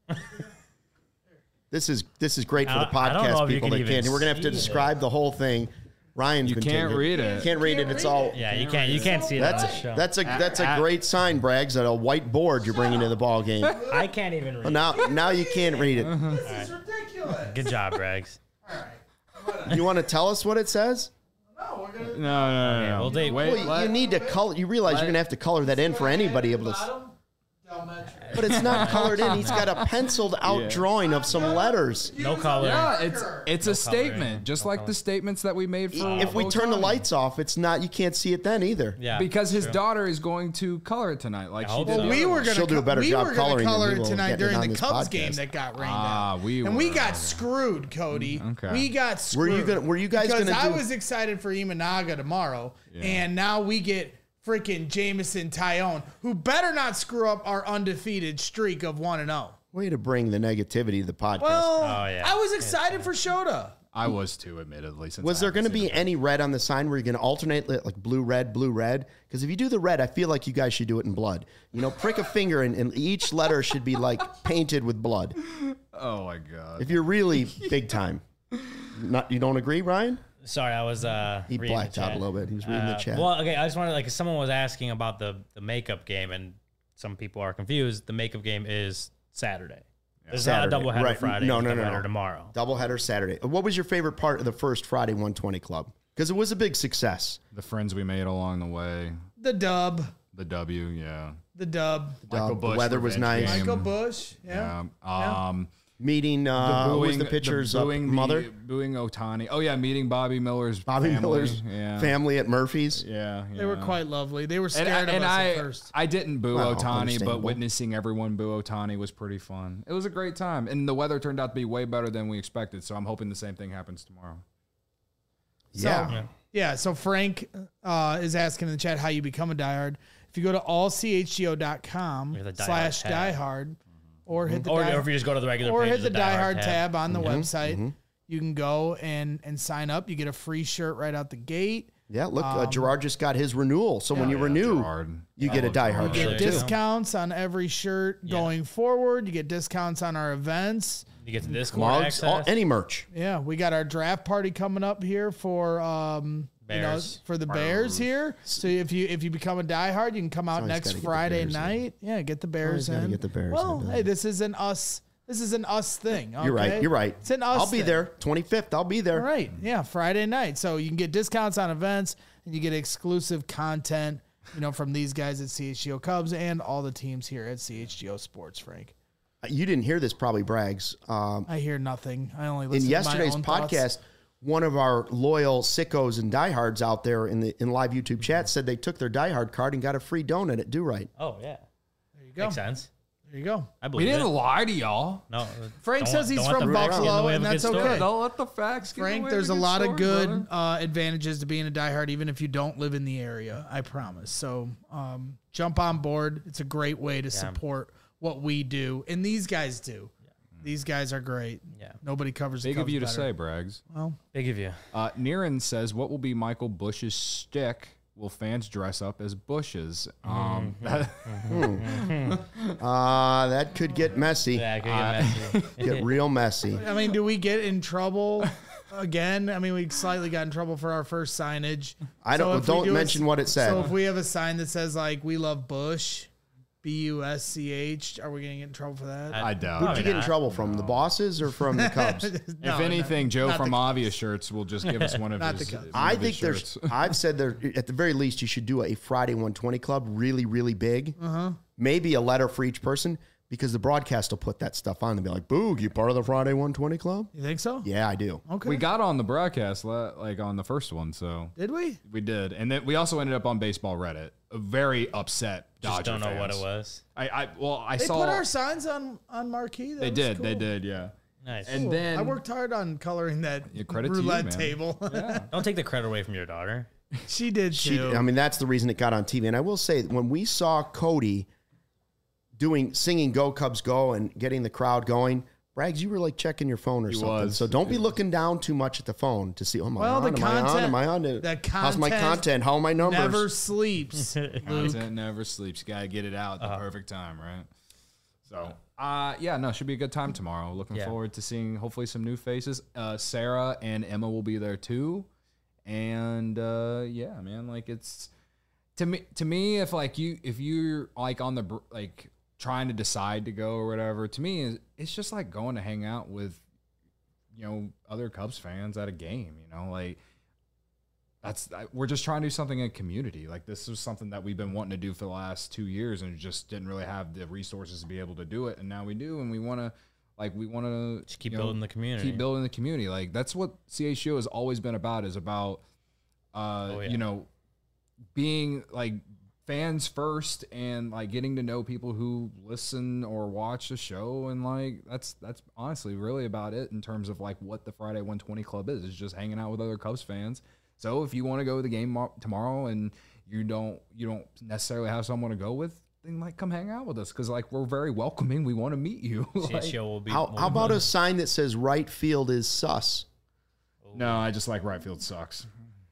This is great for the I don't know podcast if you people can that even can't. We're going to have to see describe the whole thing. Ryan's You been can't taking read it. You can't read it. It's all. Yeah, you can't see it on this show. That's a great sign, Braggs. That a white board you're bringing to the ball game. I can't even read. Now you can't read it. This is ridiculous. Good job, Braggs. You want to tell us what it says? No, we're gonna. No. well, they- Wait, Well, you need to color. You realize you're going to have to color that in for anybody able to. But it's not colored in. He's got a penciled out drawing of some letters. No color. Yeah, it's a statement, coloring. just like the statements that we made for. If we turn the Otani. lights off, it's not. You can't see it then either. Yeah. because his daughter is going to color it tonight, like I she hope did. so. the We other were one. gonna. She'll do a better we job were gonna coloring than color we it will tonight getting during on the this Cubs podcast. game that got rained Ah, out. we and we were. got screwed, Cody. Okay. We got screwed. Were you guys because gonna I do- was excited for Imanaga tomorrow, and now we get freaking Jameson Tyone, who better not screw up our undefeated streak of 1-0. Way to bring the negativity to the podcast. Well, yeah. I was excited for Shota. I was too, admittedly. Since was I there haven't going to seen be it. any red on the sign where you're going to alternate like blue, red? Because if you do the red, I feel like you guys should do it in blood. You know, prick a finger and each letter should be like painted with blood. Oh my god! If you're really big time. You don't agree, Ryan? Sorry, I was He reading blacked the out chat. a little bit. He was reading the chat. Well, okay, I just wanted someone was asking about the makeup game, and some people are confused. The makeup game is Saturday. There's Saturday, not a doubleheader right. Friday. No, it's no, a no, doubleheader no. tomorrow. Doubleheader Saturday. What was your favorite part of the first Friday 120 Club? Because it was a big success. The friends we made along the way, The dub. the W, yeah. The dub. Michael The Bush weather was revenge nice. game. Michael Bush. Yeah. Meeting who was the pitcher's mother? Booing Otani. Oh yeah, meeting Bobby Miller's Bobby family. Miller's yeah. family at Murphy's. Yeah, They were quite lovely. They were scared and of us I, at first. I didn't boo Well, Otani, but understandable. witnessing everyone boo Otani was pretty fun. It was a great time, and the weather turned out to be way better than we expected. So I'm hoping the same thing happens tomorrow. Yeah. Yeah, so Frank is asking in the chat how you become a diehard. If you go to allchgo.com Or the diehard tab. /diehard or hit the Or diehard, if you just go to the regular or page, hit the there's a diehard tab on the Mm-hmm. website, you can go and sign up. You get a free shirt right out the gate. Yeah, look, Gerard just got his renewal. So when you renew, you get a diehard You shirt. get discounts on every shirt going forward. You get discounts on our events. You get the Discord Mugs, access. any merch. Yeah, we got our draft party coming up here for Bears. for the Bears here. So if you become a diehard, you can come out next Friday night. Yeah, get the Bears Always gotta in. get the Bears well, in, hey, this is an us thing. Okay? You're right. You're right. It's an us. I'll be thing. there. 25th. I'll be there. All right. Yeah, Friday night. So you can get discounts on events and you get exclusive content, from these guys at CHGO Cubs and all the teams here at CHGO Sports, Frank. You didn't hear this, probably, Braggs. I hear nothing. I only In listen yesterday's to my own podcast, thoughts. one of our loyal sickos and diehards out there in live YouTube chat said they took their diehard card and got a free donut at Do Right. Oh, yeah. There you go. Makes sense. There you go. I We believe didn't it. lie to y'all. No. Frank says he's don't let from the facts get in the Buffalo, way and of a that's good story. okay. Don't let the facts get Frank, away there's a with lot good of good brother. advantages to being a diehard, even if you don't live in the area. I promise. So jump on board. It's a great way to support what we do, and these guys do. These guys are great. Yeah. Nobody covers the Big Cubs of you to better. say, Braggs. Well, Big of you. Niren says, what will be Michael Bush's shtick? Will fans dress up as bushes? That could get messy. Yeah, I could get messy. Get real messy. I mean, do we get in trouble again? I mean, we slightly got in trouble for our first signage. Don't mention what it said. So if we have a sign that says like "We love Bush," BUSCH, are we going to get in trouble for that? I doubt Who'd it. you get in trouble from? The bosses or from the Cubs? If anything, Joe from Avia Shirts will just give us one of Not his. the Cubs. one I of his think shirts. I've said there, at the very least, you should do a Friday 120 club really, really big. Maybe a letter for each person because the broadcast will put that stuff on and be like, Boog, you part of the Friday 120 club? You think so? Yeah, I do. Okay. We got on the broadcast like on the first one, so Did we? we did, and then we also ended up on Baseball Reddit. Very upset Dodger Just don't know fans. what it was. I They saw put our signs on marquee. That they was did, cool. they did, yeah. Nice. And Cool. then I worked hard on coloring that credit to you, roulette man. table. Don't take the credit away from your daughter. She did too. I mean, that's the reason it got on TV. And I will say, when we saw Cody singing Go Cubs Go and getting the crowd going, Braggs, you were like checking your phone or something. was. So don't be looking down too much at the phone to see, am I Well, on? the Am I on? content- Am I on? the How's my content content? How are my numbers? Never sleeps. Content never sleeps. You gotta get it out at the perfect time, right? So, should be a good time tomorrow. Looking Yeah. forward to seeing hopefully some new faces. Sarah and Emma will be there too, and man, like it's to me if you're like on the like trying to decide to go or whatever, to me it's just like going to hang out with other Cubs fans at a game. Like. We're just trying to do something in community. Like this is something that we've been wanting to do for the last 2 years and just didn't really have the resources to be able to do it. And now we do. And we want to Just keep building the community. Keep building the community. Like that's what CHGO has always been about, is about, being like fans first and like getting to know people who listen or watch the show. And like, that's honestly really about it in terms of like what the Friday 120 Club is just hanging out with other Cubs fans. So if you want to go to the game tomorrow and you don't necessarily have someone to go with, then like come hang out with us because like we're very welcoming. We want to meet you. CHGO will be. How about a sign that says right field is sus? No, I just like right field sucks.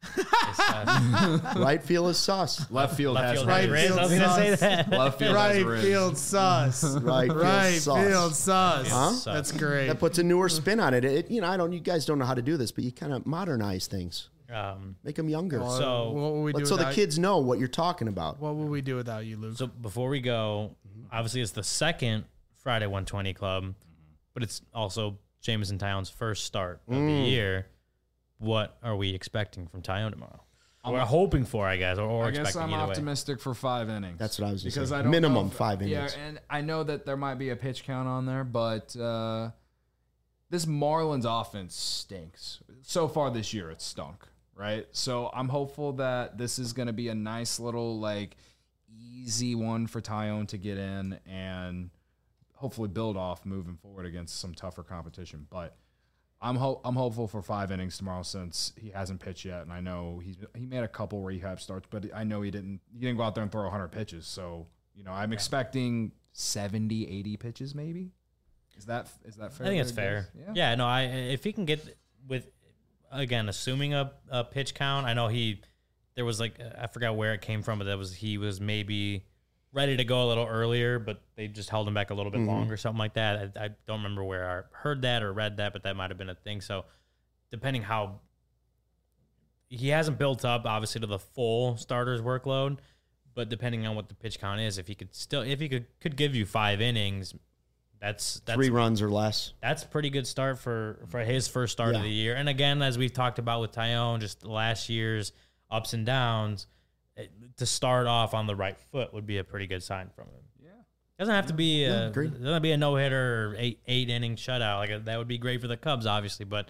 Right field is sus. Left field has Right Riz. field I was gonna say sus. that. Left field has Right Riz. field sus. Right field Right sus. field sus. Huh? That's great. That puts a newer spin on it. You guys don't know how to do this, but you kind of modernize things. Make them younger. So what will we do So the without- kids know what you're talking about. What will we do without you, Luke? So before we go, obviously it's the second Friday 120 Club, but it's also Jameson Tyone's first start of the year. What are we expecting from Tyone tomorrow? We're hoping for, I guess, or I guess expecting I'm either way. optimistic for 5 innings. That's what I was going to because say. I don't Minimum know 5 innings. Yeah, and I know that there might be a pitch count on there, but this Marlins offense stinks. So far this year, it's stunk, right? So I'm hopeful that this is going to be a nice little, like, easy one for Tyone to get in and hopefully build off moving forward against some tougher competition. But I'm hopeful for 5 innings tomorrow since he hasn't pitched yet, and I know he made a couple rehab starts, but I know he didn't go out there and throw 100 pitches. So I'm expecting 70, 80 pitches maybe. Is that fair? I think it's fair. Yeah. No. If he can get with, again, assuming a pitch count, I know he there was like, I forgot where it came from, but he was maybe ready to go a little earlier, but they just held him back a little bit longer, something like that. I don't remember where I heard that or read that, but that might have been a thing. So depending how he hasn't built up obviously to the full starter's workload, but depending on what the pitch count is, if he could give you 5 innings, that's 3 runs or less. That's a pretty good start for his first start of the year. And again, as we've talked about with Taillon, just last year's ups and downs, to start off on the right foot would be a pretty good sign from him. Yeah, doesn't have to be a no hitter or 8 inning shutout. Like that would be great for the Cubs, obviously. But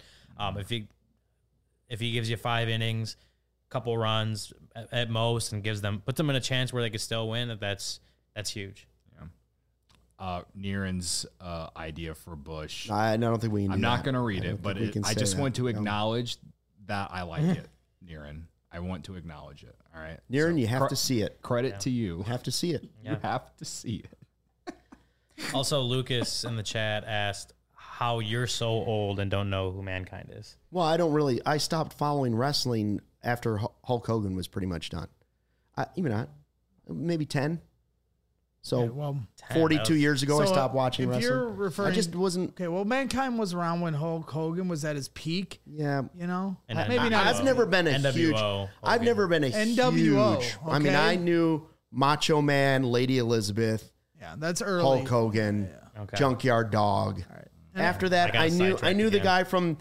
if he gives you 5 innings, couple runs at most, and puts them in a chance where they could still win, that's huge. Nieren's idea for Bush. I don't think we can. I'm not going to read it, but I just want to acknowledge that I like it, Nieren. I want to acknowledge it. All right, Nieren, so you have to see it. Credit to you. You have to see it. You have to see it. Also, Lucas in the chat asked how you're so old and don't know who Mankind is. Well, I stopped following wrestling after Hulk Hogan was pretty much done. Even not, maybe 10. So 42 years ago, I stopped watching wrestling. You're referring, I just wasn't. Okay, well, Mankind was around when Hulk Hogan was at his peak. Yeah, you know, and maybe not. I've never been a NWO, huge. Hogan. I've never been a NWO. huge. Okay. I mean, I knew Macho Man, Lady Elizabeth. Yeah, that's early. Hulk Hogan, Junkyard Dog. All right. After that, I knew the guy from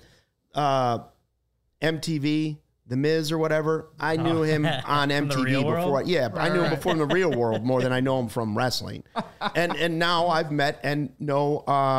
MTV. The Miz or whatever, I knew him on MTV before. I knew him before in the real world more than I know him from wrestling. And now I've met and know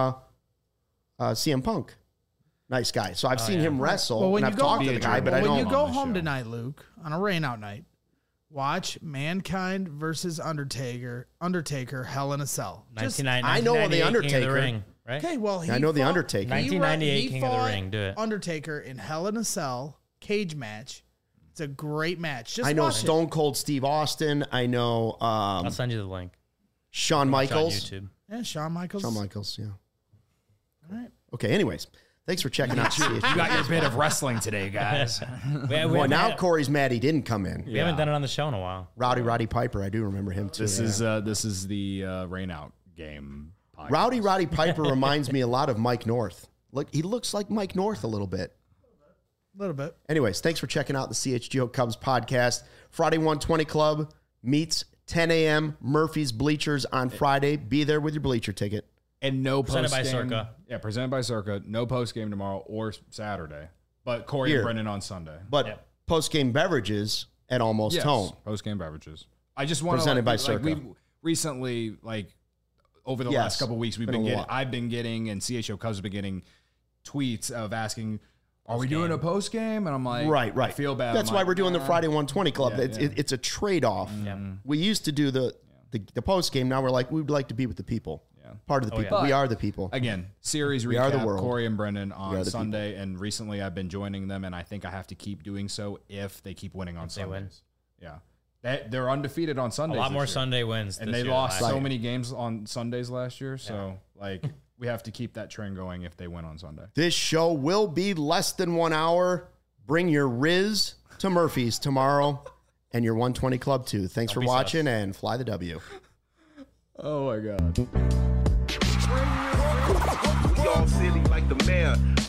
CM Punk. Nice guy. So I've seen him wrestle. Well, when and you I've talked to the guy, but I don't. When you go home tonight, Luke, on a rainout night, watch Mankind versus Undertaker, Hell in a Cell. I know the Undertaker. Ring, right? Okay, well, I know the Undertaker. 1998 King of the Ring. Do it. Undertaker in Hell in a Cell. Cage match. It's a great match. Just I know Stone Cold Steve Austin. I know. I'll send you the link. Shawn Michaels. YouTube. Yeah, Shawn Michaels. Yeah. All right. Okay. Anyways, thanks for checking out. You got your bit of wrestling today, guys. Well, now Corey's mad he didn't come in. We haven't done it on the show in a while. Roddy Piper. I do remember him too. This is the Rain Out game podcast. Roddy Piper reminds me a lot of Mike North. Look, he looks like Mike North a little bit. A little bit. Anyways, thanks for checking out the CHGO Cubs podcast. Friday 120 Club meets 10 a.m. Murphy's Bleachers on Friday. Be there with your bleacher ticket. And no presented post by game. Circa. Yeah, presented by Circa. No post game tomorrow or Saturday. But Corey and Brendan on Sunday. But post game beverages at Almost Home. Post game beverages. I just want to presented by Circa. We've recently, over the last couple of weeks, I've been getting, and CHGO Cubs have been getting tweets of asking, are we doing a post game? And I'm like, right. I feel bad. That's why we're doing the Friday 120 Club. It's a trade off. We used to do the post game. Now we're like, we'd like to be with the people. Part of the people. We are the people. Again, series recap. Are the world. Corey and Brendan on Sunday, and recently I've been joining them, and I think I have to keep doing so if they keep winning on Sundays. Yeah, they're undefeated on Sundays. A lot more Sunday wins, and they lost so many games on Sundays last year. So we have to keep that trend going if they win on Sunday. This show will be less than 1 hour. Bring your Riz to Murphy's tomorrow and your 120 Club too. Thanks for watching and fly the W. Oh my God. We all silly like the mayor.